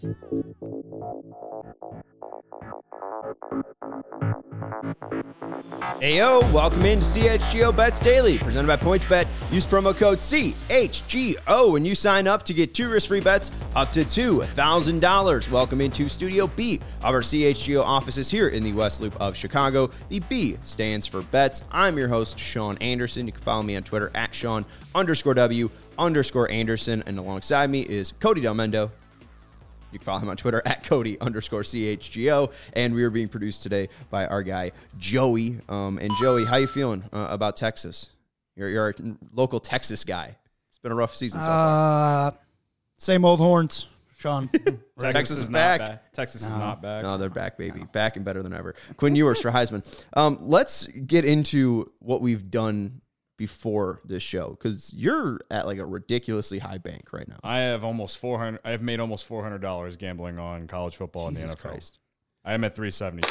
Heyo, welcome into CHGO Bets Daily, presented by PointsBet. Use promo code CHGO when you sign up to get 2 risk-free bets up to $2,000. Welcome into Studio B of our CHGO offices here in the West Loop of Chicago. The B stands for bets. I'm your host, Sean Anderson. You can follow me on Twitter at Sean_W_Anderson. And alongside me is Cody Del Mendo. You can follow him on Twitter at Cody_CHGO. And we are being produced today by our guy, Joey. And Joey, how you feeling about Texas? You're a local Texas guy. It's been a rough season so far. Same old horns, Sean. Texas is back. Texas is not back. No, they're back, baby. No. Back and better than ever. Quinn Ewers for Heisman. Let's get into what we've done before this show, because you're at like a ridiculously high bank right now. I have almost $400. I have made almost $400 gambling on college football in the NFL. Christ. I am at 377.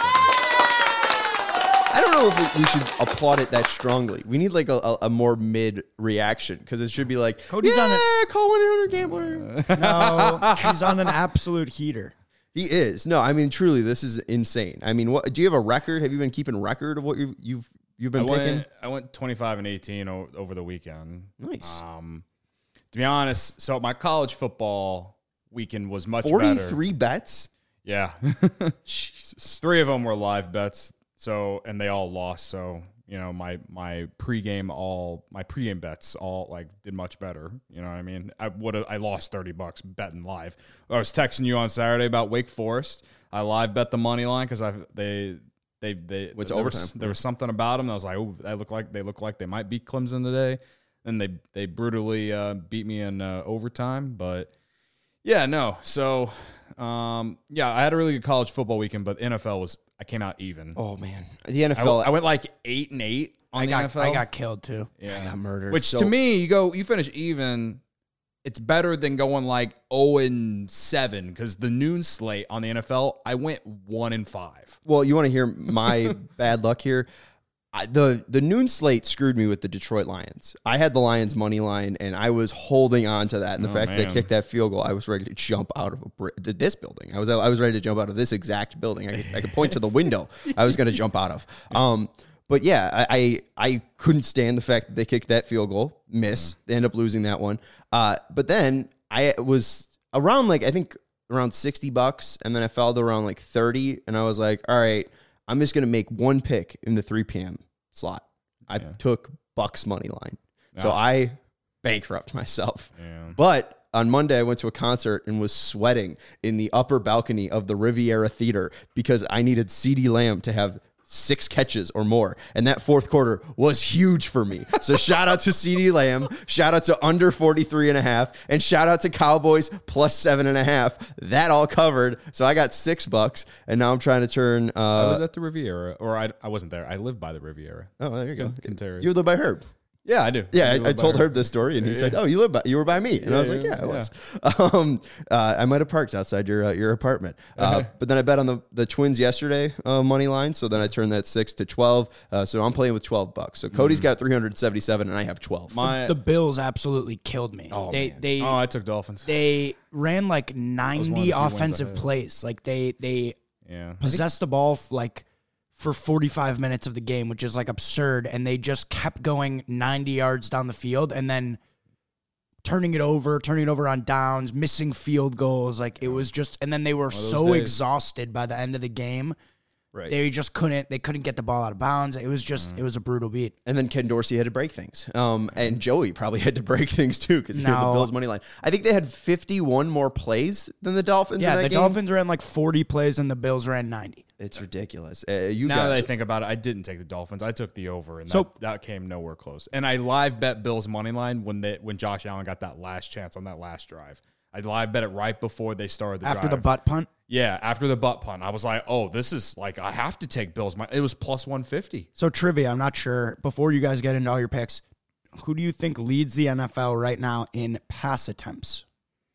I don't know if we should applaud it that strongly. We need like a more mid reaction, because it should be like, Cody's on it. Call 1-800 Gambler. No, he's on an absolute heater. He is. No, I mean, truly, this is insane. I mean, what do you have a record? Have you been keeping record of what you've been picking? I went 25-18 over the weekend. Nice. To be honest, so my college football weekend was much 43 better. 43 bets? Yeah. Jesus. 3 of them were live bets. So, and they all lost. So, you know, my pregame bets all like did much better. You know what I mean? I lost $30 betting live. I was texting you on Saturday about Wake Forest. I live bet the money line because there was something about them. I was like, oh, they look like they might beat Clemson today. And they brutally beat me in overtime. But yeah, no. So I had a really good college football weekend, but NFL I came out even. Oh man, the NFL. I went like 8-8 on the NFL. I got killed too. Yeah, I got murdered. Which to me, you finish even. It's better than going like 0-7, because the noon slate on the NFL, I went 1-5. Well, you want to hear my bad luck here? The noon slate screwed me with the Detroit Lions. I had the Lions money line, and I was holding on to that. And the fact that they kicked that field goal, I was ready to jump out of this building. I was ready to jump out of this exact building. I could point to the window I was going to jump out of. But yeah, I couldn't stand the fact that they kicked that field goal, miss. They end up losing that one. But then I was around I think around $60, and then I fell to around like 30, and I was like, all right, I'm just going to make one pick in the 3 p.m. slot. I took Bucks money line. So I bankrupt myself. Yeah. But on Monday, I went to a concert and was sweating in the upper balcony of the Riviera Theater because I needed CeeDee Lamb to have 6 catches or more. And that fourth quarter was huge for me. So shout out to CeeDee Lamb, shout out to under 43.5, and shout out to Cowboys plus 7.5. That all covered. So I got $6, and now I'm trying to turn. I was at the Riviera, or I wasn't there. I lived by the Riviera. Oh, there you go. You live by Herb. Yeah, I do. Yeah, I told Herb this story, and he said, "Oh, you were by me," and I was like, "Yeah, I was." I might have parked outside your apartment, but then I bet on the Twins yesterday money line, so then I turned that 6 to 12. So I'm playing with $12. So Cody's got 377, and I have 12. The Bills absolutely killed me. I took Dolphins. They ran like 90 offensive plays. Like they possessed the ball for 45 minutes of the game, which is like absurd. And they just kept going 90 yards down the field and then turning it over on downs, missing field goals. Like it was just, and then they were so exhausted by the end of the game. Right. They just couldn't get the ball out of bounds. It was just, it was a brutal beat. And then Ken Dorsey had to break things. And Joey probably had to break things too, because he had the Bills money line. I think they had 51 more plays than the Dolphins. Yeah, the Dolphins ran like 40 plays and the Bills ran 90. It's ridiculous. Now that I think about it, I didn't take the Dolphins. I took the over, and that came nowhere close. And I live bet Bills money line when Josh Allen got that last chance on that last drive. I live bet it right before they started the drive. After the butt punt? Yeah, after the butt punt. I was like, oh, this is like, I have to take Bills. It was plus 150. So trivia, I'm not sure. Before you guys get into all your picks, who do you think leads the NFL right now in pass attempts?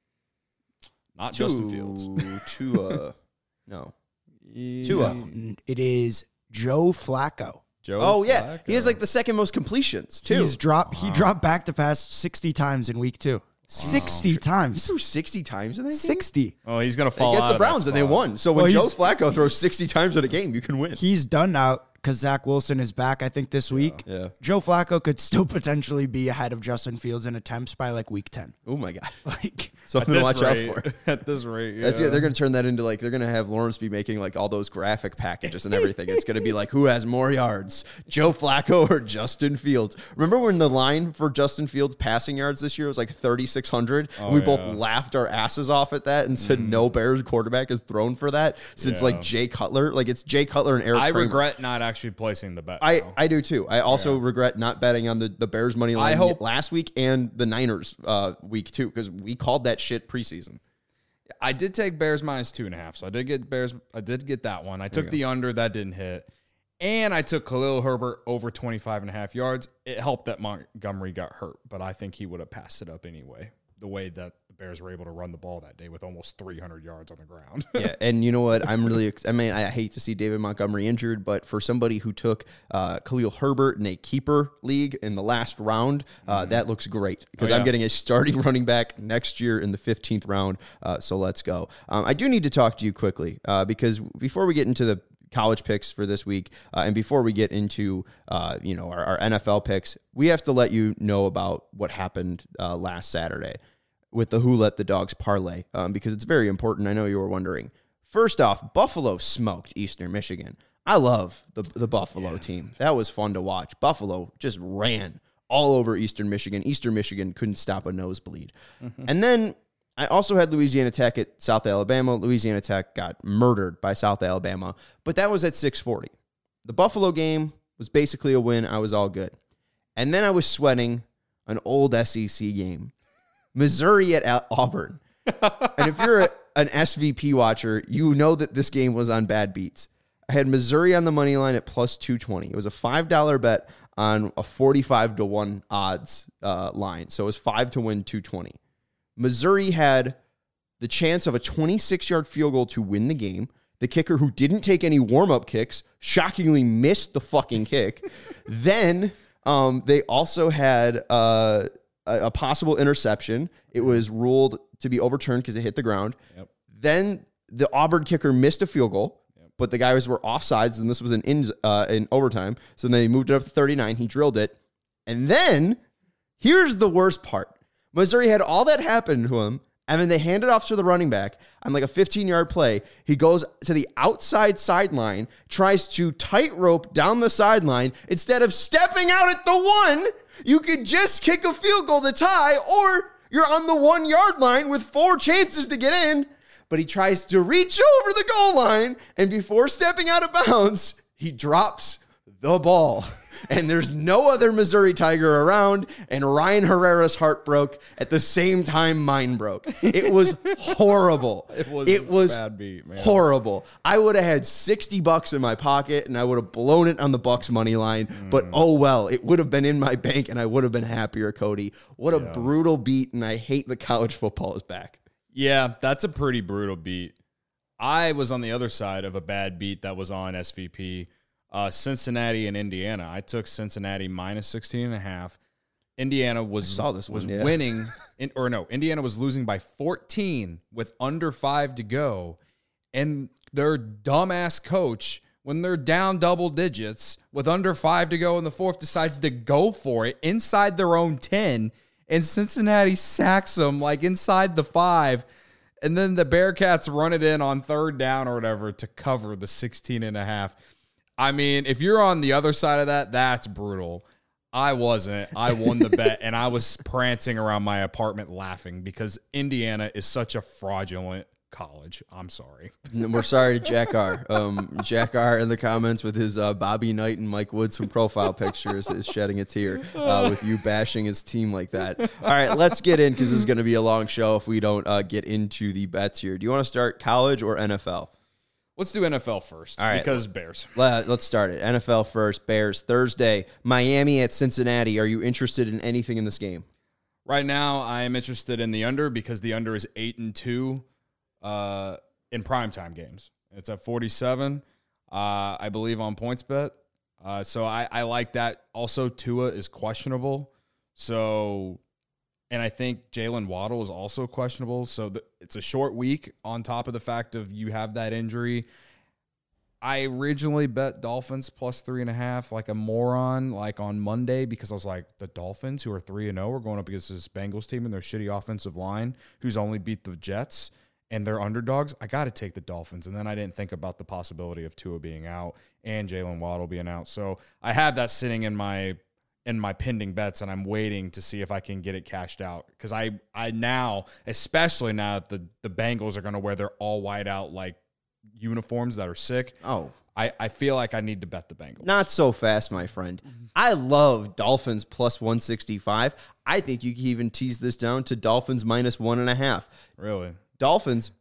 Not Justin Fields. Tua. No. Tua. It is Joe Flacco. Flacco. He has like the second most completions too. He dropped back to pass 60 times in week 2. 60 times. He threw 60 times in that game? 60. Oh, he's going to fall against out the Browns, and they won. So when Joe Flacco throws 60 times in a game, you can win. He's done now because Zach Wilson is back, I think, this week. Yeah. Joe Flacco could still potentially be ahead of Justin Fields in attempts by like week 10. Oh, my God. Like, something to watch out for. At this rate, yeah. That's it. They're going to turn that into like, they're going to have Lawrence be making like all those graphic packages and everything. It's going to be like, who has more yards, Joe Flacco or Justin Fields? Remember when the line for Justin Fields passing yards this year was like 3,600? Oh, and we both laughed our asses off at that and said no Bears quarterback has thrown for that since like Jay Cutler. Like it's Jay Cutler and Eric Kramer. Regret not actually placing the bet. I do too. I also regret not betting on the Bears money line last week and the Niners week too, because we called that shit preseason. I did take Bears minus 2.5, so I did get Bears. I did get that one. I took the under, that didn't hit, and I took Khalil Herbert over 25.5 yards. It helped that Montgomery got hurt, but I think he would have passed it up anyway. The way that the Bears were able to run the ball that day with almost 300 yards on the ground. Yeah, and you know what? I hate to see David Montgomery injured, but for somebody who took Khalil Herbert in a keeper league in the last round, that looks great because I'm getting a starting running back next year in the 15th round. So let's go. I do need to talk to you quickly because before we get into the college picks for this week, and before we get into our NFL picks, we have to let you know about what happened last Saturday with the Who Let the Dogs parlay, because it's very important. I know you were wondering. First off, Buffalo smoked Eastern Michigan. I love the Buffalo team. That was fun to watch. Buffalo just ran all over Eastern Michigan. Eastern Michigan couldn't stop a nosebleed. And then I also had Louisiana Tech at South Alabama. Louisiana Tech got murdered by South Alabama, but that was at 6:40. The Buffalo game was basically a win. I was all good. And then I was sweating an old SEC game. Missouri at Auburn. And if you're an SVP watcher, you know that this game was on bad beats. I had Missouri on the money line at plus 220. It was a $5 bet on a 45-1 odds line. So it was 5 to win 220. Missouri had the chance of a 26-yard field goal to win the game. The kicker, who didn't take any warm-up kicks, shockingly missed the fucking kick. Then they also had a possible interception. It was ruled to be overturned because it hit the ground. Yep. Then the Auburn kicker missed a field goal, but the guys were offsides, and this was in overtime. So they moved it up to 39. He drilled it. And then, here's the worst part. Missouri had all that happen to him, and then they hand it off to the running back on like a 15-yard play. He goes to the outside sideline, tries to tightrope down the sideline. Instead of stepping out at the one, you could just kick a field goal to tie, or you're on the 1-yard line with 4 chances to get in. But he tries to reach over the goal line, and before stepping out of bounds, he drops the ball. And there's no other Missouri Tiger around, and Ryan Herrera's heart broke at the same time mine broke. It was horrible. It was bad beat, man. Horrible. I would have had $60 in my pocket, and I would have blown it on the Bucks money line. But oh well, it would have been in my bank, and I would have been happier, Cody. What a brutal beat, and I hate that college football is back. Yeah, that's a pretty brutal beat. I was on the other side of a bad beat that was on SVP. Cincinnati and Indiana. I took Cincinnati minus 16.5. Indiana was winning, Indiana was losing by 14 with under 5 to go. And their dumbass coach, when they're down double digits with under 5 to go in the fourth, decides to go for it inside their own 10. And Cincinnati sacks them like inside the 5. And then the Bearcats run it in on third down or whatever to cover the 16.5. I mean, if you're on the other side of that, that's brutal. I wasn't. I won the bet, and I was prancing around my apartment laughing because Indiana is such a fraudulent college. I'm sorry. We're sorry to Jack R. Jack R. in the comments with his Bobby Knight and Mike Woodson profile pictures is shedding a tear with you bashing his team like that. All right, let's get in because this is going to be a long show if we don't get into the bets here. Do you want to start college or NFL? Let's do NFL first. All right. Because Bears. Let's start it. NFL first. Bears Thursday. Miami at Cincinnati. Are you interested in anything in this game? Right now, I am interested in the under because the under is 8-2 in primetime games. It's at 47, I believe, on PointsBet. So I like that. Also, Tua is questionable. So And I think Jalen Waddle is also questionable. So it's a short week on top of the fact of you have that injury. I originally bet Dolphins plus 3.5 like a moron, like on Monday, because I was like, the Dolphins, who are 3-0, are going up against this Bengals team and their shitty offensive line, who's only beat the Jets, and they're underdogs. I got to take the Dolphins. And then I didn't think about the possibility of Tua being out and Jalen Waddle being out. So I have that sitting in my pending bets, and I'm waiting to see if I can get it cashed out. Because I now, especially now that the Bengals are going to wear their all white out like uniforms that are sick. Oh, I feel like I need to bet the Bengals. Not so fast, my friend. I love Dolphins plus 165. I think you can even tease this down to Dolphins minus 1.5. Really? Dolphins,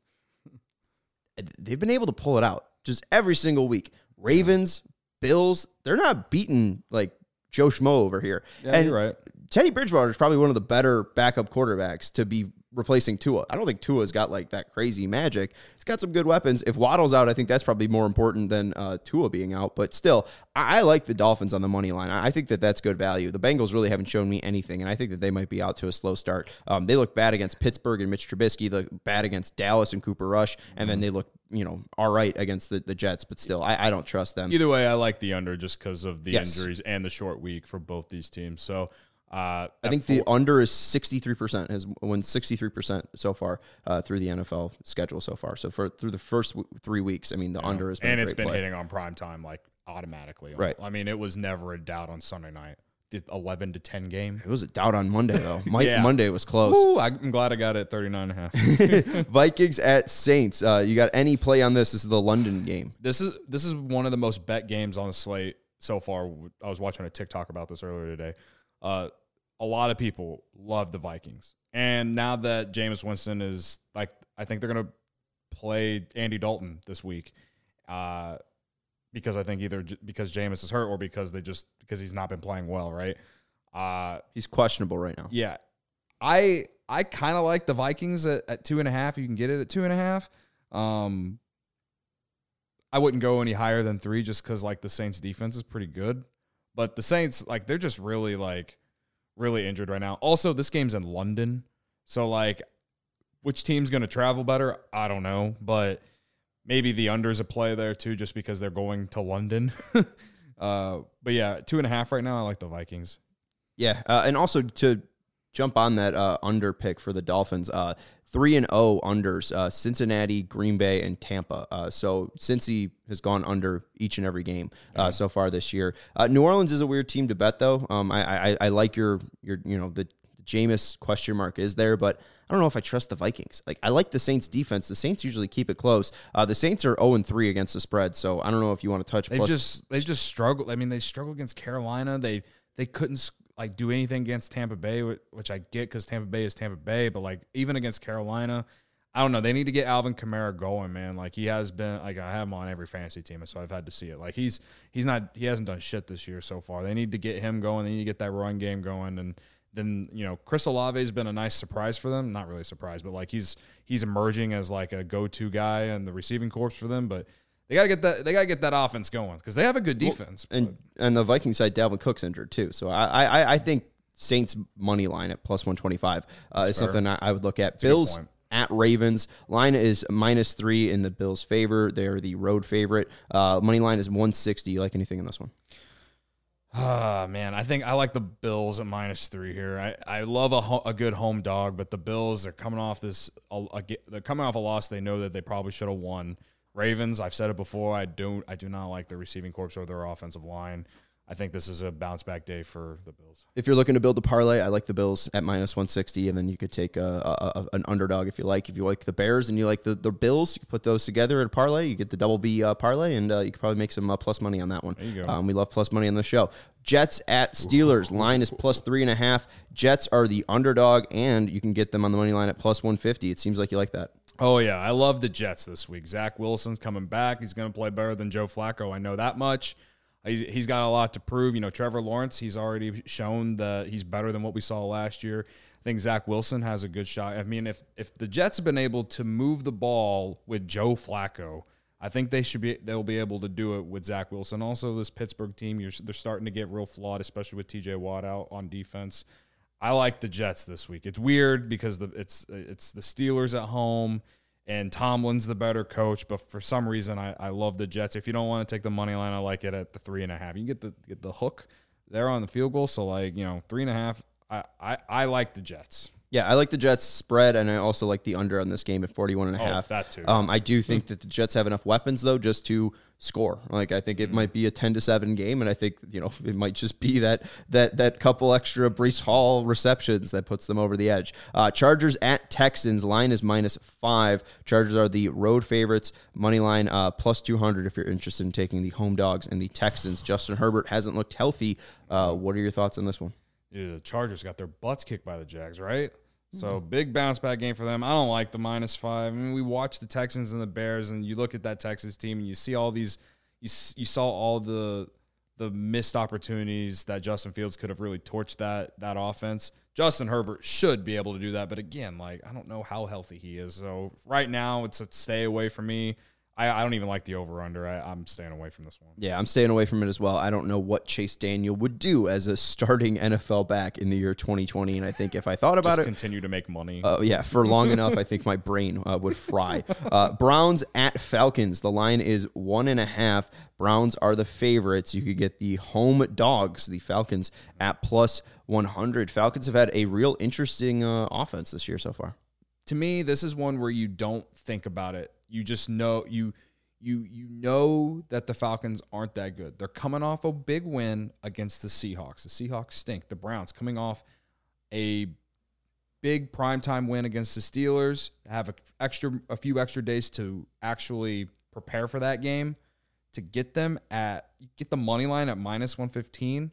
they've been able to pull it out just every single week. Ravens, Bills, they're not beating like Joe Schmo over here. Yeah, and you're right. Teddy Bridgewater is probably one of the better backup quarterbacks to be replacing Tua. I don't think Tua's got like that crazy magic. He's got some good weapons. If Waddle's out, I think that's probably more important than Tua being out. But still, I like the Dolphins on the money line. I think that that's good value. The Bengals really haven't shown me anything, and I think that they might be out to a slow start. They look bad against Pittsburgh and Mitch Trubisky. They look bad against Dallas and Cooper Rush, and then they look all right against the Jets. But still, I don't trust them. Either way, I like the under just because of the injuries and the short week for both these teams. So I think the under is 63%, has won 63% so far through the NFL schedule so far. So through the first 3 weeks, I mean, the under has been and a it's great been play. hitting on prime time like automatically. Right. I mean, it was never a doubt on Sunday night. The 11-10 game. It was a doubt on Monday though. Monday was close. Woo, I'm glad I got it at 39.5. Vikings at Saints. You got any play on this? This is the London game. This is one of the most bet games on the slate so far. I was watching a TikTok about this earlier today. A lot of people love the Vikings. And now that Jameis Winston is like, I think they're going to play Andy Dalton this week because I think either because Jameis is hurt or because he's not been playing well, right? He's questionable right now. Yeah. I kind of like the Vikings at 2.5. You can get it at 2.5. I wouldn't go any higher than 3 just because like the Saints defense is pretty good. But the Saints, like, they're just really injured right now. Also, this game's in London. So, like, which team's going to travel better? I don't know. But maybe the under's a play there, too, just because they're going to London. But, yeah, 2.5 right now. I like the Vikings. Yeah, and also to jump on that under pick for the Dolphins, 3-0 unders, Cincinnati, Green Bay, and Tampa. So Cincy has gone under each and every game so far this year. New Orleans is a weird team to bet, though. I like your the Jameis question mark is there, but I don't know if I trust the Vikings. Like, I like the Saints defense. The Saints usually keep it close. The Saints are 0-3 against the spread, so I don't know if you want to touch. They've just struggled. I mean, they struggled against Carolina. They couldn't like do anything against Tampa Bay, which I get because Tampa Bay is Tampa Bay, but like even against Carolina, I don't know. They need to get Alvin Kamara going, man. Like he has been, like I have him on every fantasy team, so I've had to see it. Like he hasn't done shit this year so far. They need to get him going. They need to get that run game going, and then Chris Olave has been a nice surprise for them. Not really a surprise, but like he's emerging as like a go-to guy in the receiving corps for them, but. They gotta get that offense going because they have a good defense. Well, and the Viking side, Dalvin Cook's injured too. So I think Saints money line at plus 125 is something I would look at. That's Bills at Ravens. Line is -3 in the Bills' favor. They are the road favorite. Money line is 160. You like anything in this one? Man, I think I like the Bills at -3 here. I love a good home dog, but the Bills are coming off they're coming off a loss they know that they probably should have won. Ravens, I've said it before, I do not like the receiving corps or their offensive line. I think this is a bounce back day for the Bills. If you're looking to build a parlay, I like the Bills at -160, and then you could take an underdog if you like. If you like the Bears and you like the Bills, you put those together at a parlay. You get the double B parlay, and you could probably make some plus money on that one. There you go. We love plus money on the show. Jets at Steelers. Line is +3.5. Jets are the underdog, and you can get them on the money line at +150. It seems like you like that. Oh, yeah. I love the Jets this week. Zach Wilson's coming back. He's going to play better than Joe Flacco. I know that much. He's got a lot to prove. Trevor Lawrence, he's already shown that he's better than what we saw last year. I think Zach Wilson has a good shot. I mean, if the Jets have been able to move the ball with Joe Flacco, I think they'll be able to do it with Zach Wilson. Also, this Pittsburgh team, they're starting to get real flawed, especially with TJ Watt out on defense. I like the Jets this week. It's weird because it's the Steelers at home, and Tomlin's the better coach. But for some reason, I love the Jets. If you don't want to take the money line, I like it at the 3.5. You can get the hook there on the field goal. So 3.5. I like the Jets. Yeah, I like the Jets spread, and I also like the under on this game at 41.5. Oh, that too. I do think that the Jets have enough weapons, though, just to score. I think it might be a 10-7 game, and I think it might just be that couple extra Breece Hall receptions that puts them over the edge. Chargers at Texans. Line is -5. Chargers are the road favorites. Money line plus 200 if you're interested in taking the home dogs and the Texans. Justin Herbert hasn't looked healthy. What are your thoughts on this one? Yeah, the Chargers got their butts kicked by the Jags, right? So big bounce back game for them. I don't like the -5. I mean, we watched the Texans and the Bears, and you look at that Texans team, and you see all these. You saw all the missed opportunities that Justin Fields could have really torched that offense. Justin Herbert should be able to do that, but again, I don't know how healthy he is. So right now, it's a stay away from me. I don't even like the over-under. I'm staying away from this one. Yeah, I'm staying away from it as well. I don't know what Chase Daniel would do as a starting NFL back in the year 2020, and I think if I thought about Just continue to make money. For long enough, I think my brain would fry. Browns at Falcons. The line is 1.5. Browns are the favorites. You could get the home dogs, the Falcons, at plus 100. Falcons have had a real interesting offense this year so far. To me, this is one where you don't think about it. You just know you know that the Falcons aren't that good. They're coming off a big win against the Seahawks. The Seahawks stink. The Browns coming off a big primetime win against the Steelers, have a few extra days to actually prepare for that game. To get the money line at -115.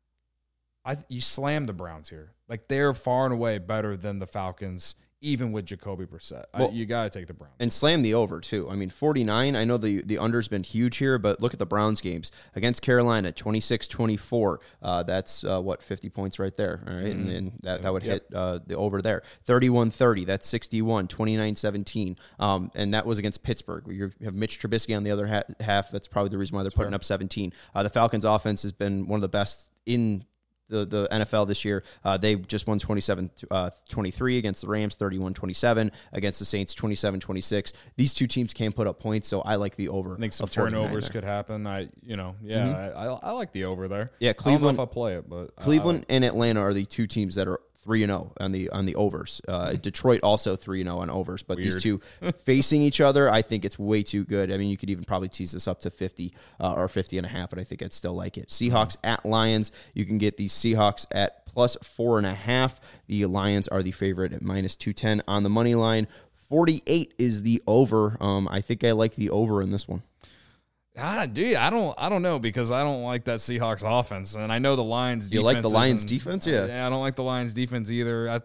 You slam the Browns here. They're far and away better than the Falcons. Even with Jacoby Brissett, you got to take the Browns. And slam the over, too. 49, I know the under's been huge here, but look at the Browns games. Against Carolina, 26-24. That's, 50 points right there, all right? Mm-hmm. And that would hit the over there. 31-30, that's 61, 29-17. And that was against Pittsburgh. You have Mitch Trubisky on the other half. That's probably the reason why they're putting up 17. The Falcons' offense has been one of the best in the NFL this year. They just won 27-23 against the Rams, 31-27 against the Saints, 27-26. These two teams can put up points, so I like the over. I think some turnovers could happen. I like the over there. Yeah, Cleveland. I don't know if I play it, but Cleveland and Atlanta are the two teams that are 3-0 on the overs. Detroit also 3-0 on overs, but Weird. These two facing each other, I think it's way too good. I mean, you could even probably tease this up to 50 or 50.5, and I think I'd still like it. Seahawks at Lions, you can get the Seahawks at plus 4.5. The Lions are the favorite at -210 on the money line. 48 is the over. I think I like the over in this one. Dude, I don't know because I don't like that Seahawks offense, and I know the Lions. Do you like the Lions defense? Yeah, I don't like the Lions defense either.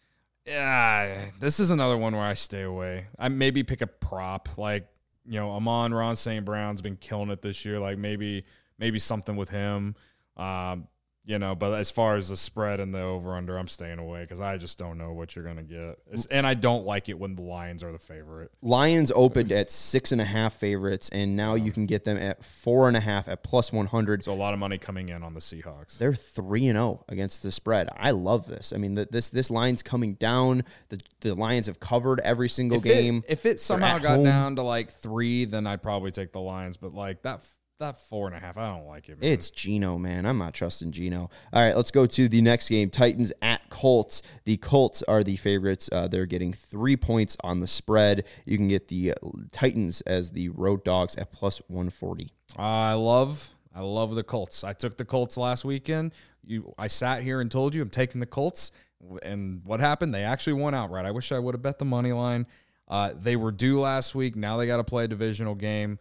This is another one where I stay away. I maybe pick a prop Amon-Ra St. Brown's been killing it this year. Maybe something with him. But as far as the spread and the over-under, I'm staying away because I just don't know what you're going to get. And I don't like it when the Lions are the favorite. Lions opened at 6.5 favorites, and now you can get them at 4.5 at plus 100. So a lot of money coming in on the Seahawks. They're 3-0 against the spread. I love this. I mean, this line's coming down. The Lions have covered every single game. If it somehow got down to 3, then I'd probably take the Lions. But that 4.5, I don't like it, man. It's Geno, man. I'm not trusting Geno. All right, let's go to the next game. Titans at Colts. The Colts are the favorites. They're getting 3 points on the spread. You can get the Titans as the road dogs at plus 140. I love the Colts. I took the Colts last weekend. I sat here and told you I'm taking the Colts. And what happened? They actually won outright. I wish I would have bet the money line. They were due last week. Now they got to play a divisional game.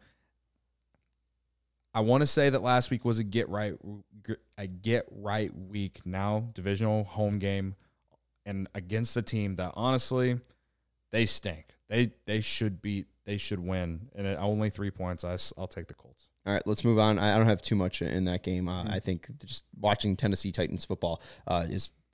I want to say that last week was a get right week. Now divisional home game and against a team that honestly they stink. They should win, and at only 3 points. I'll take the Colts. All right, let's move on. I don't have too much in that game. I think just watching Tennessee Titans football is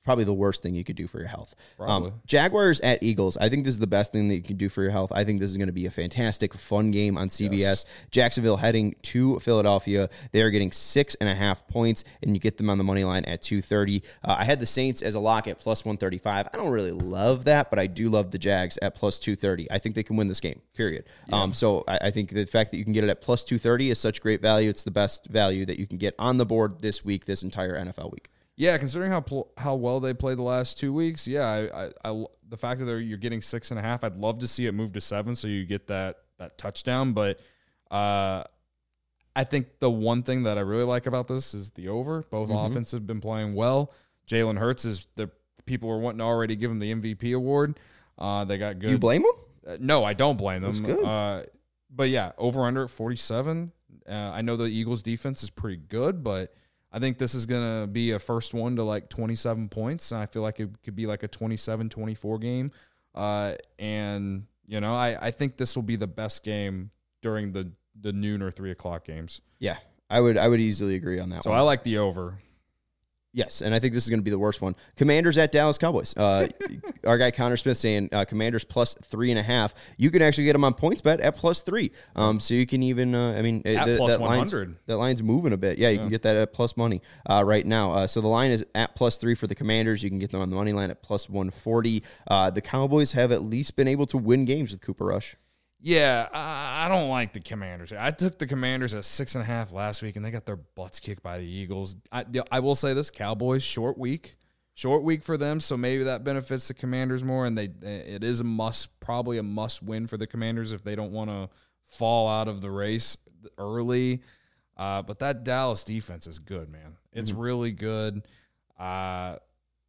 probably the worst thing you could do for your health. Probably. Jaguars at Eagles. I think this is the best thing that you can do for your health. I think this is going to be a fantastic, fun game on CBS. Yes. Jacksonville heading to Philadelphia. They are getting 6.5 points, and you get them on the money line at 230. I had the Saints as a lock at plus 135. I don't really love that, but I do love the Jags at plus 230. I think they can win this game, period. Yeah. So I think the fact that you can get it at plus 230 is such great value. It's the best value that you can get on the board this week, this entire NFL week. Yeah, considering how well they played the last 2 weeks, I the fact that you're getting 6.5, I'd love to see it move to 7 so you get that touchdown. But I think the one thing that I really like about this is the over. Both offenses have been playing well. Jalen Hurts is the people were wanting to already give him the MVP award. They got good. You blame them? No, I don't blame them. That's good. But yeah, over under at 47. I know the Eagles defense is pretty good, but I think this is going to be a first one to like 27 points. And I feel like it could be like a 27-24 game. And, I think this will be the best game during the noon or 3 o'clock games. Yeah, I would easily agree on that so one. I like the over. Yes, and I think this is going to be the worst one. Commanders at Dallas Cowboys. Our guy Connor Smith saying Commanders plus 3.5. You can actually get them on PointsBet at plus 3. So you can even, plus 100. That line's moving a bit. Yeah, you can get that at plus money right now. So the line is at plus 3 for the Commanders. You can get them on the money line at plus 140. The Cowboys have at least been able to win games with Cooper Rush. Yeah, I don't like the Commanders. I took the Commanders at 6.5 last week, and they got their butts kicked by the Eagles. I will say this: Cowboys short week for them, so maybe that benefits the Commanders more. And it is probably a must win for the Commanders if they don't want to fall out of the race early. But that Dallas defense is good, man. It's really good. Under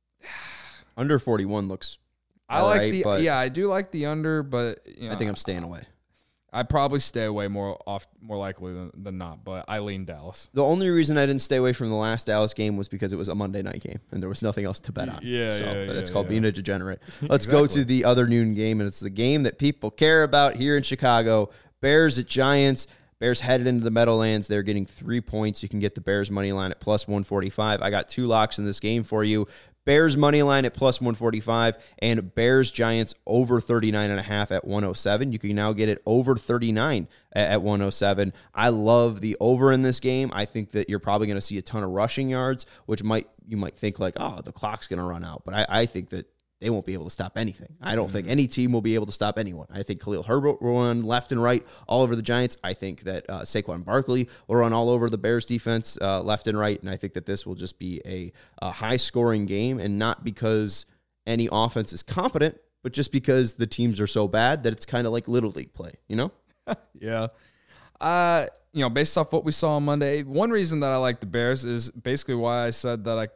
41 looks. I do like the under, but I think I'm staying away. I'd probably stay away more likely than not, but I lean Dallas. The only reason I didn't stay away from the last Dallas game was because it was a Monday night game and there was nothing else to bet on. It's called being a degenerate. Let's go to the other noon game, and it's the game that people care about here in Chicago. Bears at Giants. Bears headed into the Meadowlands. They're getting 3 points. You can get the Bears money line at plus 145. I got 2 locks in this game for you. Bears money line at plus 145 and Bears Giants over 39.5 at 107. You can now get it over 39 at 107. I love the over in this game. I think that you're probably going to see a ton of rushing yards, which you might think like, oh, the clock's going to run out. But I think that they won't be able to stop anything. I don't think any team will be able to stop anyone. I think Khalil Herbert will run left and right all over the Giants. I think that Saquon Barkley will run all over the Bears defense left and right. And I think that this will just be a high-scoring game, and not because any offense is competent, but just because the teams are so bad that it's kind of like Little League play, Yeah. Based off what we saw on Monday, one reason that I like the Bears is basically why I said that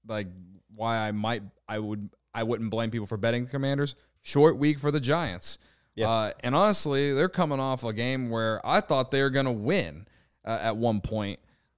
I wouldn't blame people for betting the Commanders. Short week for the Giants. Yeah. And honestly, they're coming off a game where I thought they were going to win at one point.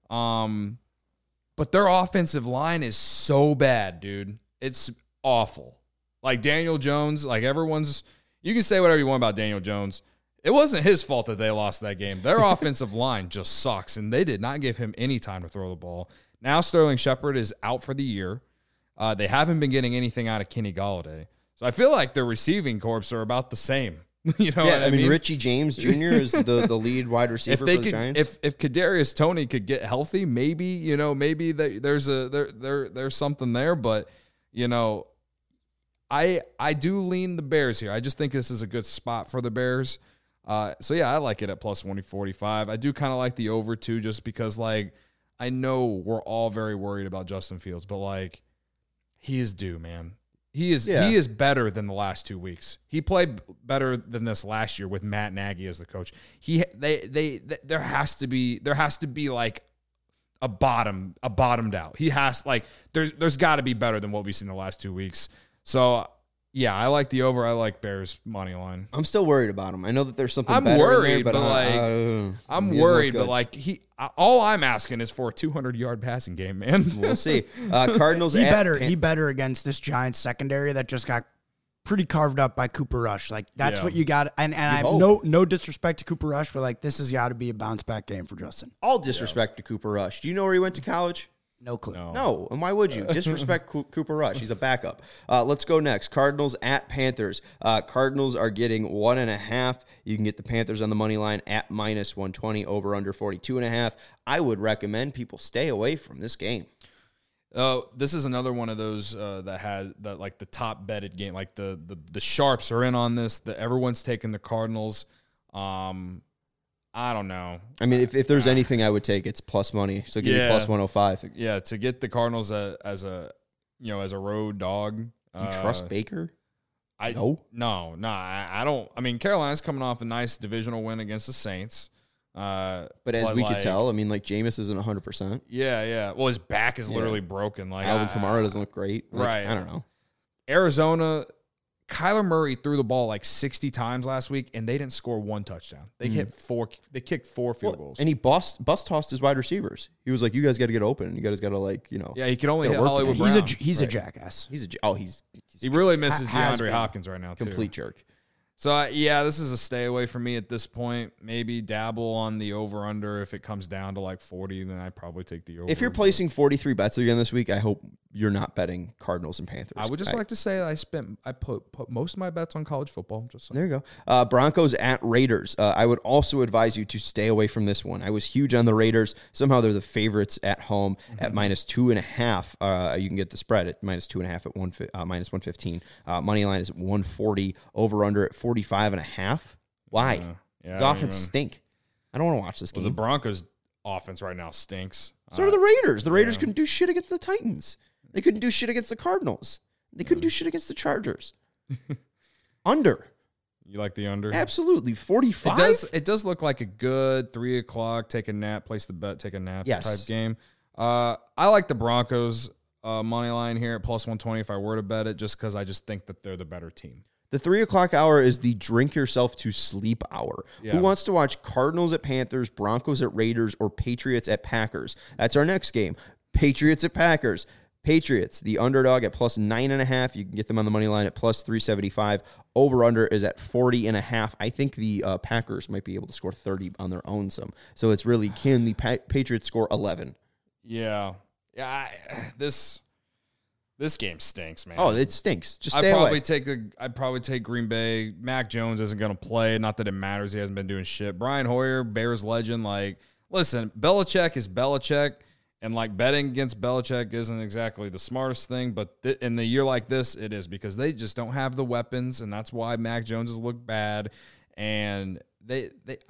But their offensive line is so bad, dude. It's awful. Like Daniel Jones, you can say whatever you want about Daniel Jones. It wasn't his fault that they lost that game. Their offensive line just sucks, and they did not give him any time to throw the ball. Now Sterling Shepard is out for the year. They haven't been getting anything out of Kenny Golladay. So I feel like their receiving corps are about the same. I mean? Richie James Jr. is the lead wide receiver for the Giants. If Kadarius Toney could get healthy, maybe there's something there. But I do lean the Bears here. I just think this is a good spot for the Bears. So yeah, I like it at plus 145. I do kind of like the over too, just because I know we're all very worried about Justin Fields, but he is due, man. He is better than the last 2 weeks. He played better than this last year with Matt Nagy as the coach. There has to be a bottomed out. He has there's got to be better than what we've seen the last 2 weeks. So yeah, I like the over. I like Bears money line. I'm still worried about him. I know that there's something better in there, but I'm worried. But all I'm asking is for a 200-yard passing game, man. We'll see. Cardinals. He better against this Giants secondary that just got pretty carved up by Cooper Rush. That's what you got. And I have no disrespect to Cooper Rush, but this has got to be a bounce back game for Justin. All disrespect to Cooper Rush. Do you know where he went to college? No clue. No, and why would you? Disrespect Cooper Rush. He's a backup. Let's go next. Cardinals at Panthers. Cardinals are getting 1.5. You can get the Panthers on the money line at -120, over under 42.5. I would recommend people stay away from this game. This is another one of those that had that like the top betted game. Like the sharps are in on this. Everyone's taking the Cardinals. I don't know. I mean, if there's anything I would take, it's plus money. So give me plus 105. Yeah, to get the Cardinals as a road dog. You trust Baker? No, I don't. I mean, Carolina's coming off a nice divisional win against the Saints. But as we could tell, I mean, like Jameis isn't 100%. Yeah. Well, his back is literally broken. Like Alvin Kamara doesn't look great. Like, right. I don't know. Arizona. Kyler Murray threw the ball like 60 times last week, and they didn't score one touchdown. They hit 4. They kicked 4 field goals, and he bus tossed his wide receivers. He was like, "You guys got to get open. You guys got to Yeah, he can only hit Hollywood Brown. He's a jackass. He really misses DeAndre Hopkins right now. Complete jerk. So, this is a stay away for me at this point. Maybe dabble on the over-under. If it comes down to like 40, then I'd probably take the over. If you're placing 43 bets again this week, I hope you're not betting Cardinals and Panthers. I would just like to say I put most of my bets on college football. Just there you go. Broncos at Raiders. I would also advise you to stay away from this one. I was huge on the Raiders. Somehow they're the favorites at home at -2.5. You can get the spread at -2.5 at -115. Money line is 140. Over-under at 45.5. Why? The offense stink. I don't want to watch this game. The Broncos' offense right now stinks. So are the Raiders. The Raiders couldn't do shit against the Titans. They couldn't do shit against the Cardinals. They couldn't do shit against the Chargers. Under. You like the under? Absolutely. 45? It does look like a good 3 o'clock, take a nap, place the bet, take a nap type game. I like the Broncos money line here at +120 if I were to bet it, just because I just think that they're the better team. The 3 o'clock hour is the drink yourself to sleep hour. Yeah. Who wants to watch Cardinals at Panthers, Broncos at Raiders, or Patriots at Packers? That's our next game. Patriots at Packers. Patriots, the underdog at +9.5. You can get them on the money line at +375. Over-under is at 40.5. I think the Packers might be able to score 30 on their own. So it's really, can the Patriots score 11? Yeah. This game stinks, man. Oh, it stinks. Just stay away. I'd probably take Green Bay. Mac Jones isn't going to play. Not that it matters. He hasn't been doing shit. Brian Hoyer, Bears legend. Like, listen, Belichick is Belichick. And, like, betting against Belichick isn't exactly the smartest thing, but in the year like this, it is, because they just don't have the weapons, and that's why Mac Jones has looked bad. And they've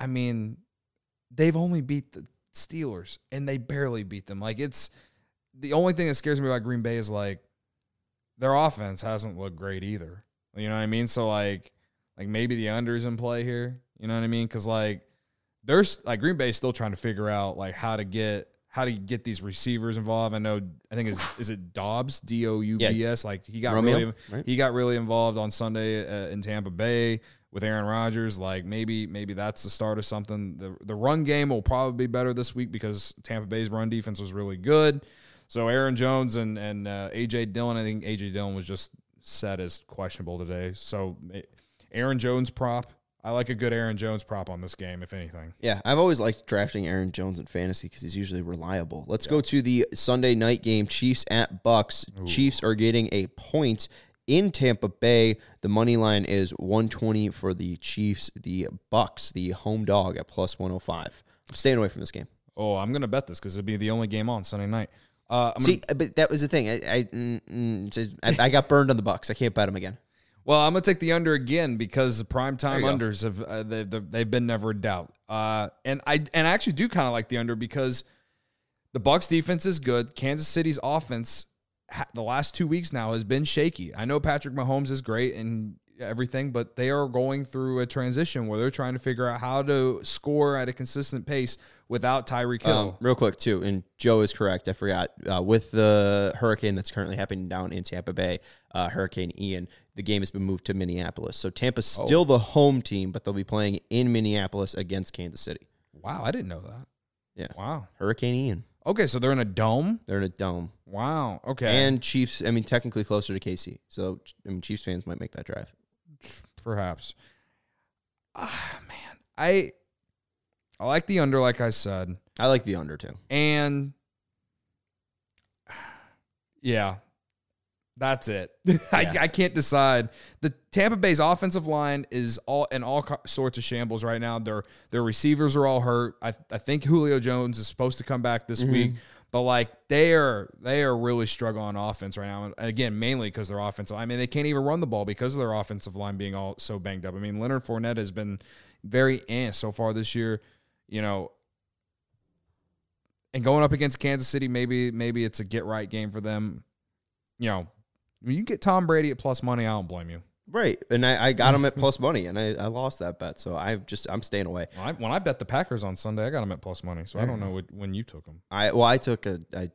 only beat the Steelers, and they barely beat them. Like, it's the only thing that scares me about Green Bay is, like, their offense hasn't looked great either. You know what I mean? So, like maybe the under's in play here. You know what I mean? Because, like, Green Bay's still trying to figure out, like, how to get these receivers involved. I think is it Dobbs, Doubs? Yeah. Like, he got Romeo, he got really involved on Sunday in Tampa Bay with Aaron Rodgers. Like, maybe that's the start of something. The run game will probably be better this week because Tampa Bay's run defense was really good. So Aaron Jones and A.J. Dillon, I think A.J. Dillon was just set as questionable today. So Aaron Jones prop. I like a good Aaron Jones prop on this game, if anything. Yeah, I've always liked drafting Aaron Jones in fantasy because he's usually reliable. Let's go to the Sunday night game, Chiefs at Bucks. Ooh. Chiefs are getting a point in Tampa Bay. The money line is 120 for the Chiefs. The Bucks, the home dog, at +105. I'm staying away from this game. Oh, I'm going to bet this because it'll be the only game on Sunday night. But that was the thing. I got burned on the Bucks. I can't bet them again. Well, I'm gonna take the under again because the primetime unders have they've been never a doubt. And I actually do kind of like the under because the Bucs defense is good. Kansas City's offense the last 2 weeks now has been shaky. I know Patrick Mahomes is great and everything, but they are going through a transition where they're trying to figure out how to score at a consistent pace without Tyreek Hill. Real quick, too, and Joe is correct. I forgot. With the hurricane that's currently happening down in Tampa Bay, Hurricane Ian, the game has been moved to Minneapolis. So Tampa's still the home team, but they'll be playing in Minneapolis against Kansas City. Wow, I didn't know that. Yeah. Wow. Hurricane Ian. Okay, so they're in a dome? They're in a dome. Wow, okay. And Chiefs, technically closer to KC. So, Chiefs fans might make that drive. Perhaps. Man, I like the under, like I said. I like the under, too. And Yeah. That's it. I can't decide. The Tampa Bay's offensive line is all sorts of shambles right now. Their receivers are all hurt. I think Julio Jones is supposed to come back this week, but like they are really struggling on offense right now. And again, mainly because their offensive line. I mean, they can't even run the ball because of their offensive line being all so banged up. I mean, Leonard Fournette has been very so far this year, you know. And going up against Kansas City, maybe it's a get right game for them. You know, when you get Tom Brady at plus money, I don't blame you. Right. And I got him at plus money, and I lost that bet. So I'm staying away. When I bet the Packers on Sunday, I got him at plus money. So I don't know when you took them. I took the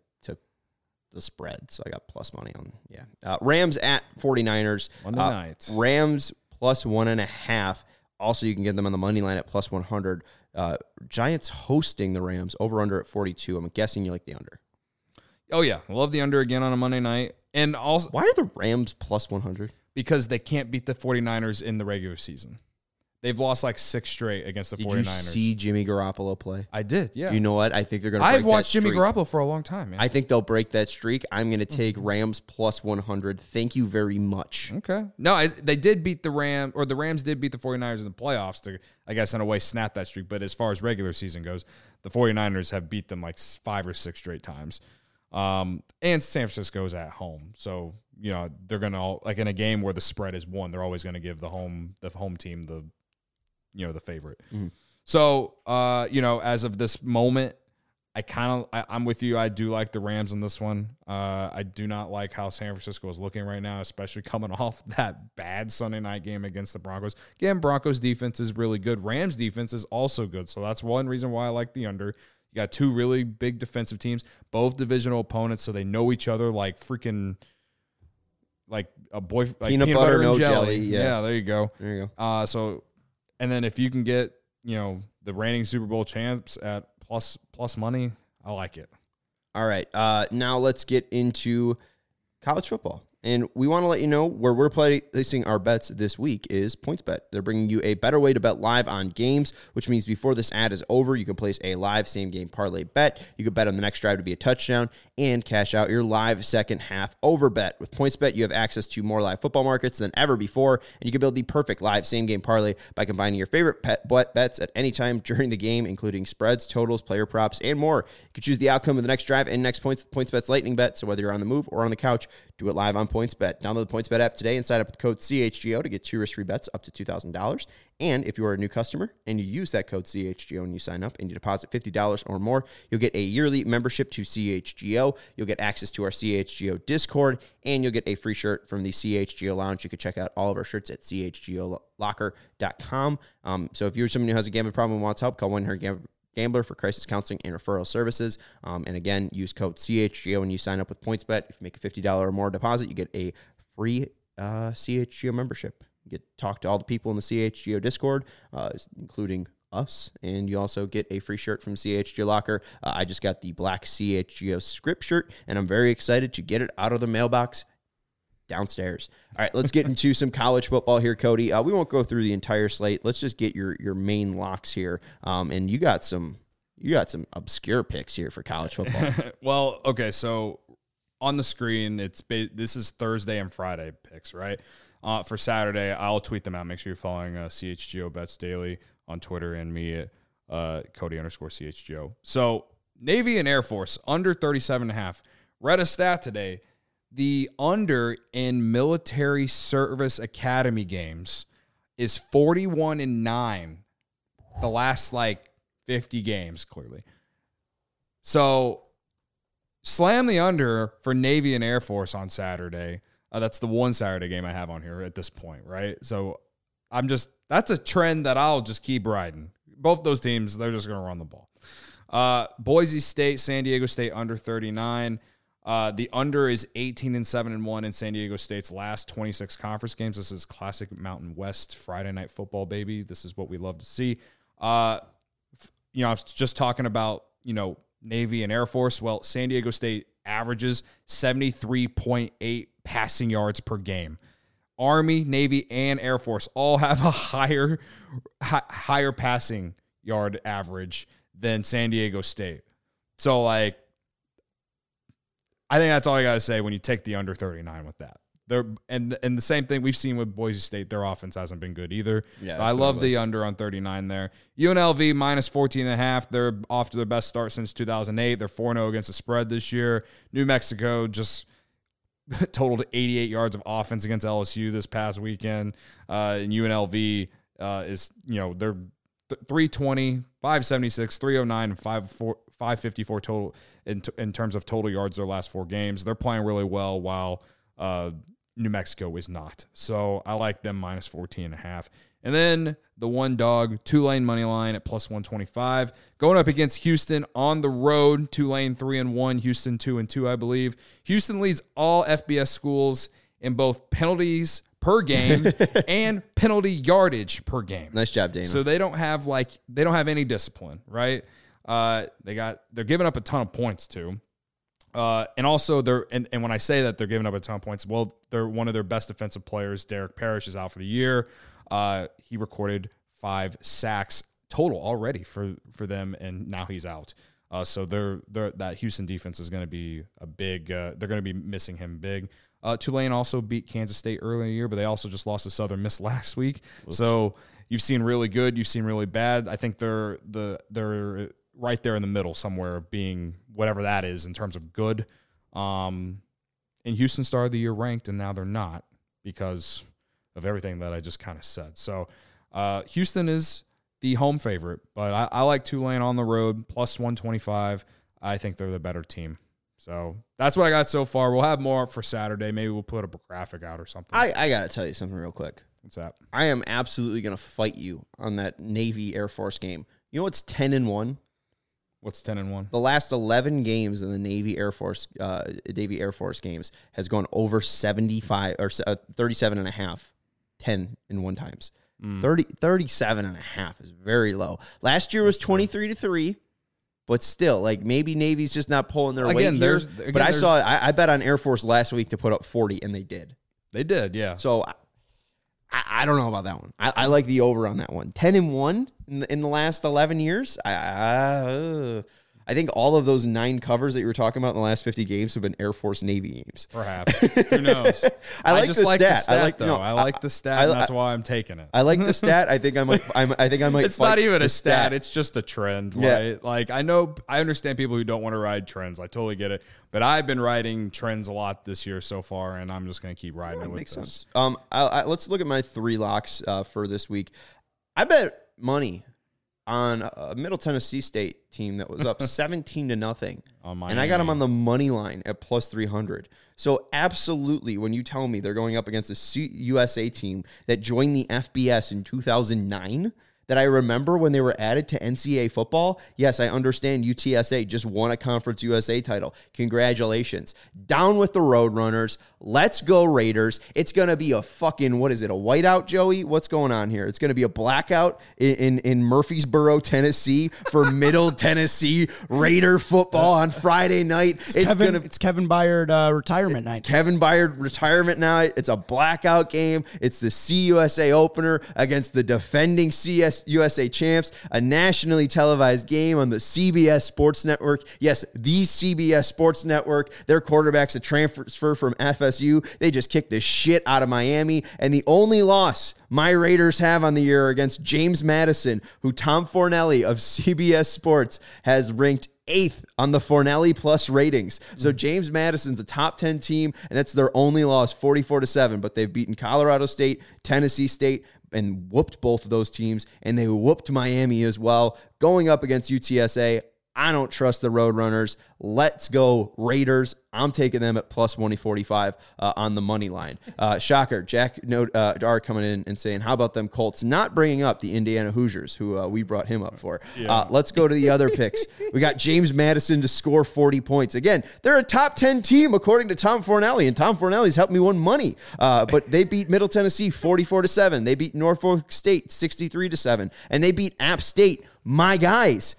spread, so I got plus money on. Yeah. Rams at 49ers. Monday night. Rams plus 1.5. Also, you can get them on the money line at plus 100. Giants hosting the Rams, over under at 42. I'm guessing you like the under. Oh, yeah. I love the under again on a Monday night. And also, why are the Rams plus 100? Because they can't beat the 49ers in the regular season. They've lost like 6 straight against the 49ers. Did you see Jimmy Garoppolo play? I did, yeah. You know what? I think they're going to break that streak. I've watched Jimmy Garoppolo for a long time, man. I think they'll break that streak. I'm going to take Rams plus 100. Thank you very much. Okay. No, they did beat the Rams did beat the 49ers in the playoffs to, I guess, in a way, snap that streak. But as far as regular season goes, the 49ers have beat them like 5 or 6 straight times. And San Francisco's at home. So, you know, they're going to, like in a game where the spread is 1, they're always going to give the home team the favorite. Mm-hmm. So, you know, as of this moment, I'm with you. I do like the Rams in this one. I do not like how San Francisco is looking right now, especially coming off that bad Sunday night game against the Broncos. Again, Broncos defense is really good. Rams defense is also good. So that's one reason why I like the under. You got 2 really big defensive teams, both divisional opponents, so they know each other like freaking like a boy, like peanut butter and no jelly. Yeah, there you go. There you go. So, and then if you can get, you know, the reigning Super Bowl champs at plus money, I like it. All right. Now let's get into college football. And we want to let you know where we're placing our bets this week is PointsBet. They're bringing you a better way to bet live on games, which means before this ad is over, you can place a live same-game parlay bet. You can bet on the next drive to be a touchdown and cash out your live second-half over bet. With PointsBet, you have access to more live football markets than ever before, and you can build the perfect live same-game parlay by combining your favorite bets at any time during the game, including spreads, totals, player props, and more. You can choose the outcome of the next drive and next points with PointsBet's Lightning Bet, so whether you're on the move or on the couch, do it live on PointsBet. Download the PointsBet app today and sign up with the code CHGO to get 2 risk-free bets up to $2,000. And if you are a new customer and you use that code CHGO and you sign up and you deposit $50 or more, you'll get a yearly membership to CHGO. You'll get access to our CHGO Discord, and you'll get a free shirt from the CHGO Lounge. You can check out all of our shirts at chgolocker.com. So if you're someone who has a gambling problem and wants help, call 1-800-GAMBLER for crisis counseling and referral services. And again, use code CHGO when you sign up with PointsBet. If you make a $50 or more deposit, you get a free CHGO membership. You get to talk to all the people in the CHGO Discord, including us, and you also get a free shirt from CHGO Locker. I just got the black CHGO script shirt, and I'm very excited to get it out of the mailbox downstairs. All right, let's get into some college football here, Cody. We won't go through the entire slate. Let's just get your main locks here. And you got some obscure picks here for college football. Well, okay, so on the screen, this is Thursday and Friday picks, right? For Saturday, I'll tweet them out. Make sure you're following CHGO Bets Daily on Twitter and me at Cody_CHGO. So Navy and Air Force under 37.5. Read a stat today. The under in military service academy games is 41-9. The last 50 games, clearly. So slam the under for Navy and Air Force on Saturday. That's the one Saturday game I have on here at this point, right? So that's a trend that I'll just keep riding. Both those teams, they're just going to run the ball. Boise State, San Diego State under 39. The under is 18-7-1 in San Diego State's last 26 conference games. This is classic Mountain West Friday night football, baby. This is what we love to see. I was just talking about, Navy and Air Force. Well, San Diego State averages 73.8 passing yards per game. Army, Navy, and Air Force all have a higher passing yard average than San Diego State. So, I think that's all I got to say when you take the under 39 with that. And the same thing we've seen with Boise State. Their offense hasn't been good either. Yeah, I love the under on 39 there. UNLV minus 14.5. They're off to their best start since 2008. They're 4-0 against the spread this year. New Mexico just totaled 88 yards of offense against LSU this past weekend. And UNLV is, they're 320, 576, 309, and 554 total in terms of total yards their last 4 games. They're playing really well while New Mexico is not. So I like them minus 14.5. And then the one dog, Tulane money line at plus 125. Going up against Houston on the road. Tulane 3-1, Houston 2-2, I believe. Houston leads all FBS schools in both penalties per game and penalty yardage per game. Nice job, Dana. So they don't have any discipline, right? They're giving up a ton of points too. And also and when I say that they're giving up a ton of points, well, they're one of their best defensive players, Derek Parrish, is out for the year. He recorded 5 sacks total already for them, and now he's out. So that Houston defense is going to be a big. They're going to be missing him big. Tulane also beat Kansas State earlier in the year, but they also just lost to Southern Miss last week. Oops. So you've seen really good, you've seen really bad. I think they're right there in the middle somewhere, being whatever that is in terms of good. And Houston started the year ranked, and now they're not because of everything that I just kind of said. So Houston is the home favorite, but I like Tulane on the road, plus 125. I think they're the better team. So that's what I got so far. We'll have more for Saturday. Maybe we'll put a graphic out or something. I got to tell you something real quick. What's that? I am absolutely going to fight you on that Navy Air Force game. You know what's 10-1? What's 10-1? The last 11 games in the Navy Air Force games has gone over 75 or 37.5, 10-1 times. 37.5 is very low. Last year was 23-3, but still, like, maybe Navy's just not pulling their weight here. But I bet on Air Force last week to put up 40, and they did. They did, yeah. So I don't know about that one. I like the over on that one. 10-1 in the last 11 years. I think all of those 9 covers that you were talking about in the last 50 games have been Air Force Navy games. Perhaps. Who knows? I like the stat. I like the stat, and that's why I'm taking it. I like the stat. I think I might. It's not even a stat. It's just a trend. Yeah. Right? Like, I understand people who don't want to ride trends. I totally get it. But I've been riding trends a lot this year so far, and I'm just going to keep riding it with makes this. Sense. Let's look at my 3 locks for this week. I bet money on a Middle Tennessee State team that was up 17-0, and I got them on the money line at plus 300. So absolutely, when you tell me they're going up against a USA team that joined the FBS in 2009, that I remember when they were added to NCAA football, yes, I understand UTSA just won a Conference USA title. Congratulations. Down with the Roadrunners. Let's go Raiders. It's going to be a fucking, what is it, a whiteout, Joey? What's going on here? It's going to be a blackout in Murfreesboro, Tennessee for Middle Tennessee Raider football on Friday night. It's Kevin Byard retirement night. Kevin Byard retirement night. It's a blackout game. It's the CUSA opener against the defending USA champs, a nationally televised game on the CBS Sports Network. Yes, the CBS Sports Network. Their quarterback's a transfer from FSU. They just kicked the shit out of Miami. And the only loss my Raiders have on the year against James Madison, who Tom Fornelli of CBS Sports has ranked 8th on the Fornelli Plus ratings. So James Madison's a top 10 team, and that's their only loss, 44-7. But they've beaten Colorado State, Tennessee State, and whooped both of those teams, and they whooped Miami as well. Going up against UTSA, I don't trust the Roadrunners. Let's go Raiders. I'm taking them at plus 145 on the money line. Shocker, Jack Dar coming in and saying, how about them Colts? Not bringing up the Indiana Hoosiers, who we brought him up for. Yeah. Let's go to the other picks. We got James Madison to score 40 points. Again, they're a top 10 team according to Tom Fornelli, and Tom Fornelli's helped me win money. But they beat Middle Tennessee 44-7. They beat Norfolk State 63-7. And they beat App State, my guys,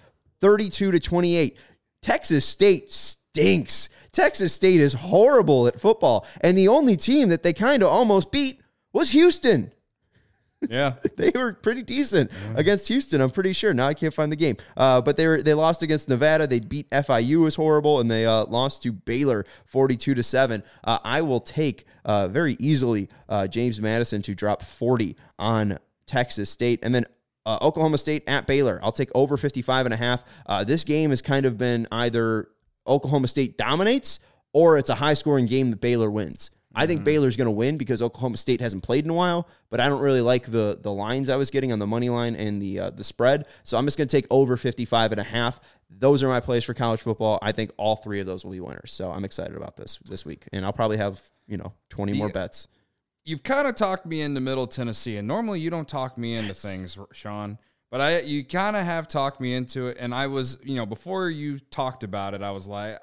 32-28. Texas State stinks. Texas State is horrible at football. And the only team that they kind of almost beat was Houston. Yeah. They were pretty decent against Houston, I'm pretty sure. Now I can't find the game. But they lost against Nevada. They beat FIU, was horrible, and they lost to Baylor 42-7. I will take very easily James Madison to drop 40 on Texas State. And then Oklahoma State at Baylor. I'll take over 55.5. This game has kind of been either Oklahoma State dominates or it's a high-scoring game that Baylor wins. I think Baylor's going to win because Oklahoma State hasn't played in a while, but I don't really like the lines I was getting on the money line and the spread. So I'm just going to take over 55.5. Those are my plays for college football. I think all three of those will be winners. So I'm excited about this week, and I'll probably have 20 more bets. You've kind of talked me into Middle Tennessee, and normally you don't talk me into things, Sean. But you kind of have talked me into it, and I was, before you talked about it, I was like,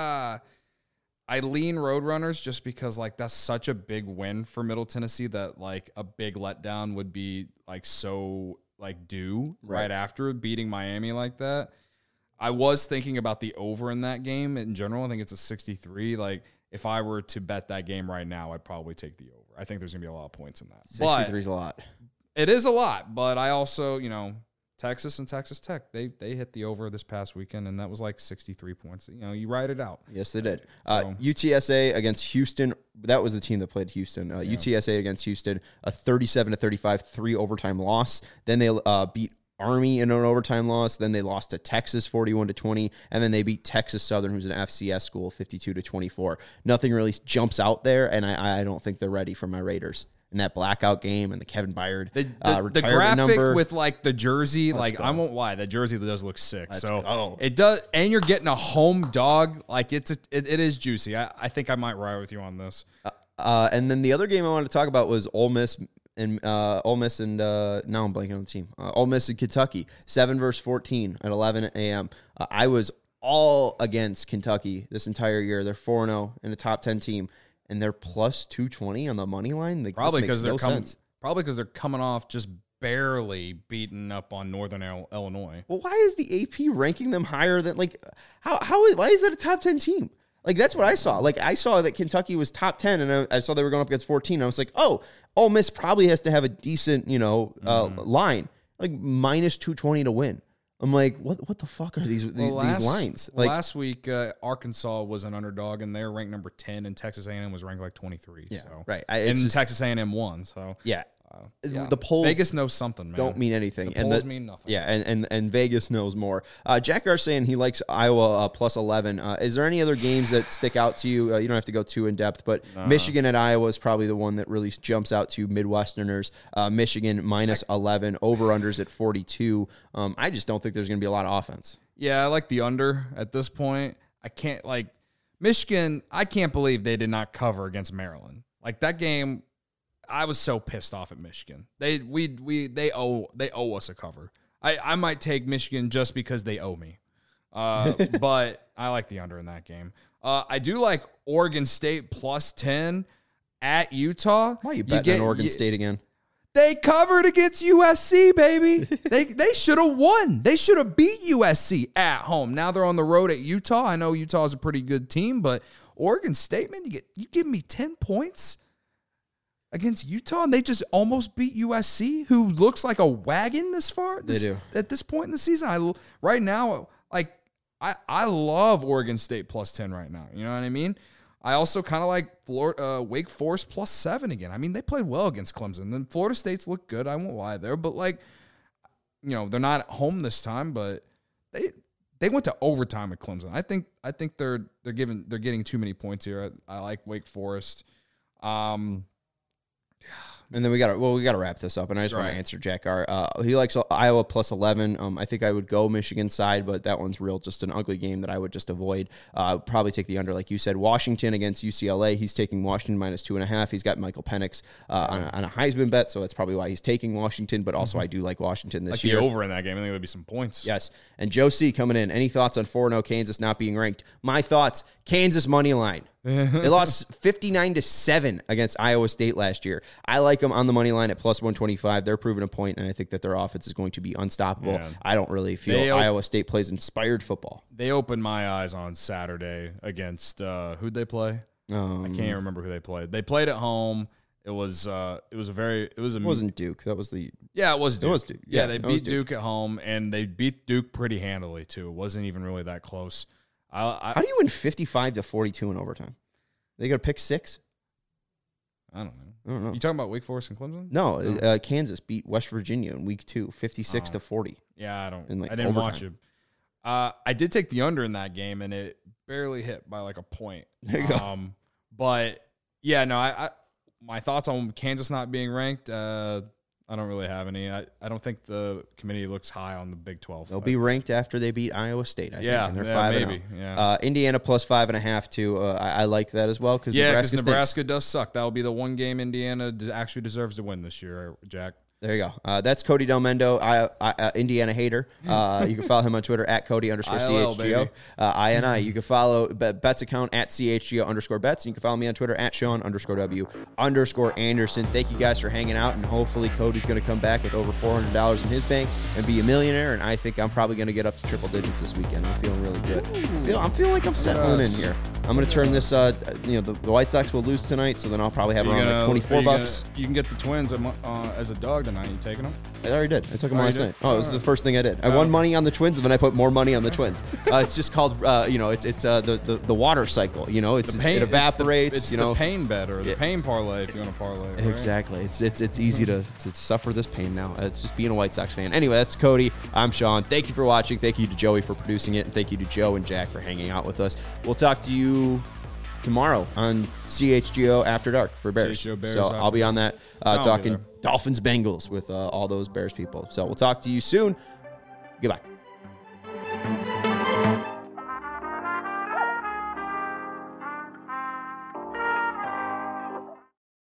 I lean Roadrunners just because, that's such a big win for Middle Tennessee that, a big letdown would be, so, due right after beating Miami like that. I was thinking about the over in that game in general. I think it's a 63. If I were to bet that game right now, I'd probably take the over. I think there's going to be a lot of points in that. 63 is a lot. It is a lot, but I also, Texas and Texas Tech, they hit the over this past weekend, and that was 63 points. You ride it out. Yes, they did. UTSA against Houston. That was the team that played Houston. UTSA against Houston, a 37-35 3 overtime loss. Then they beat Army in an overtime loss. Then they lost to Texas 41-20, and then they beat Texas Southern, who's an FCS school, 52-24. Nothing really jumps out there, and I don't think they're ready for my Raiders. In that blackout game and the Kevin Byard the graphic number. With the jersey, I won't lie, that jersey does look sick. It does, and you're getting a home dog. It is juicy. I think I might ride with you on this. And then the other game I wanted to talk about was Ole Miss and now I'm blanking on the team. Ole Miss and Kentucky, 7-14 at 11 a.m. I was all against Kentucky this entire year. They're 4-0 in a top 10 team. And they're plus 220 on the money line. Probably because they're coming off just barely beating up on Northern Illinois. Well, why is the AP ranking them higher than why is that a top 10 team? That's what I saw. I saw that Kentucky was top 10, and I saw they were going up against 14. I was like, oh, Ole Miss probably has to have a decent line, minus 220 to win. I'm like, what the fuck are these lines? Last week, Arkansas was an underdog, and they're ranked number 10, and Texas A&M was ranked 23. Yeah, so. right. Texas A&M won. So yeah. The polls Vegas knows something, man. Don't mean anything. The polls mean nothing. Yeah, and Vegas knows more. Jack Gar's saying he likes Iowa plus 11. Is there any other games that stick out to you? You don't have to go too in depth, but Michigan at Iowa is probably the one that really jumps out to Midwesterners. Michigan minus 11, over-unders at 42. I just don't think there's going to be a lot of offense. Yeah, I like the under at this point. I can't Michigan. I can't believe they did not cover against Maryland. That game. I was so pissed off at Michigan. They owe us a cover. I might take Michigan just because they owe me. But I like the under in that game. I do like Oregon State plus 10 at Utah. Why are you betting on Oregon State again? They covered against USC, baby. They should have won. They should have beat USC at home. Now they're on the road at Utah. I know Utah is a pretty good team, but Oregon State, man, you give me 10 points against Utah, and they just almost beat USC, who looks like a wagon They do. At this point in the season. Right now, I love Oregon State plus 10 right now. You know what I mean? I also kind of like Wake Forest plus 7 again. I mean, they played well against Clemson. Then Florida State's looked good. I won't lie there, but they're not at home this time, but they went to overtime at Clemson. I think they're getting too many points here. I like Wake Forest. And then we got to wrap this up, and I just want to answer Jack R. He likes Iowa plus 11. I think I would go Michigan side, but that one's just an ugly game that I would just avoid. Probably take the under, like you said. Washington against UCLA. He's taking Washington minus 2.5. He's got Michael Penix on a Heisman bet, so that's probably why he's taking Washington. But also, I do like Washington this year. The over in that game. I think there'll be some points. Yes. And Joe C coming in. Any thoughts on 4-0 Kansas not being ranked? My thoughts: Kansas money line. They lost 59-7 against Iowa State last year. I like them on the money line at plus 125. They're proving a point, and I think that their offense is going to be unstoppable. Yeah. I don't really feel Iowa State plays inspired football. They opened my eyes on Saturday against who'd they play? I can't even remember who they played. They played at home. It wasn't Duke. That was the yeah. It was Duke. It was Duke. Yeah, they beat Duke at home, and they beat Duke pretty handily too. It wasn't even really that close. How do you win 55-42 in overtime? They got to pick 6. I don't know. You talking about Wake Forest and Clemson? No. Kansas beat West Virginia in week 2, 56-40. Yeah, I didn't watch it. I did take the under in that game, and it barely hit by like a point. There you go. But yeah, no, I my thoughts on Kansas not being ranked, I don't really have any. I don't think the committee looks high on the Big 12. They'll be ranked after they beat Iowa State, I think. And they're 5-0. Yeah. Indiana plus 5.5 too. I like that as well because Nebraska does suck. That will be the one game Indiana actually deserves to win this year, Jack. There you go. That's Cody Del Mendo, Indiana hater. You can follow him on Twitter at Cody_CHGO. INI. You can follow Bet's account at CHGO_Bets. And you can follow me on Twitter at Sean_W_Anderson. Thank you guys for hanging out. And hopefully Cody's going to come back with over $400 in his bank and be a millionaire. And I think I'm probably going to get up to triple digits this weekend. I'm feeling really good. I'm feeling like I'm settling in here. I'm going to turn this, the White Sox will lose tonight, so then I'll probably have around like $24. You can get the Twins as a dog tonight. You taking them? I already did. I took them last night. Oh, it was the first thing I did. I won money on the Twins, and then I put more money on the Twins. It's just called, it's the water cycle. It evaporates. It's the pain bet or the pain parlay if you want to parlay. Right? Exactly. It's easy to suffer this pain now. It's just being a White Sox fan. Anyway, that's Cody. I'm Sean. Thank you for watching. Thank you to Joey for producing it, and thank you to Joe and Jack for hanging out with us. We'll talk to you tomorrow on CHGO After Dark for Bears. So I'll be on that talking Dolphins Bengals with all those Bears people. So we'll talk to you soon. Goodbye.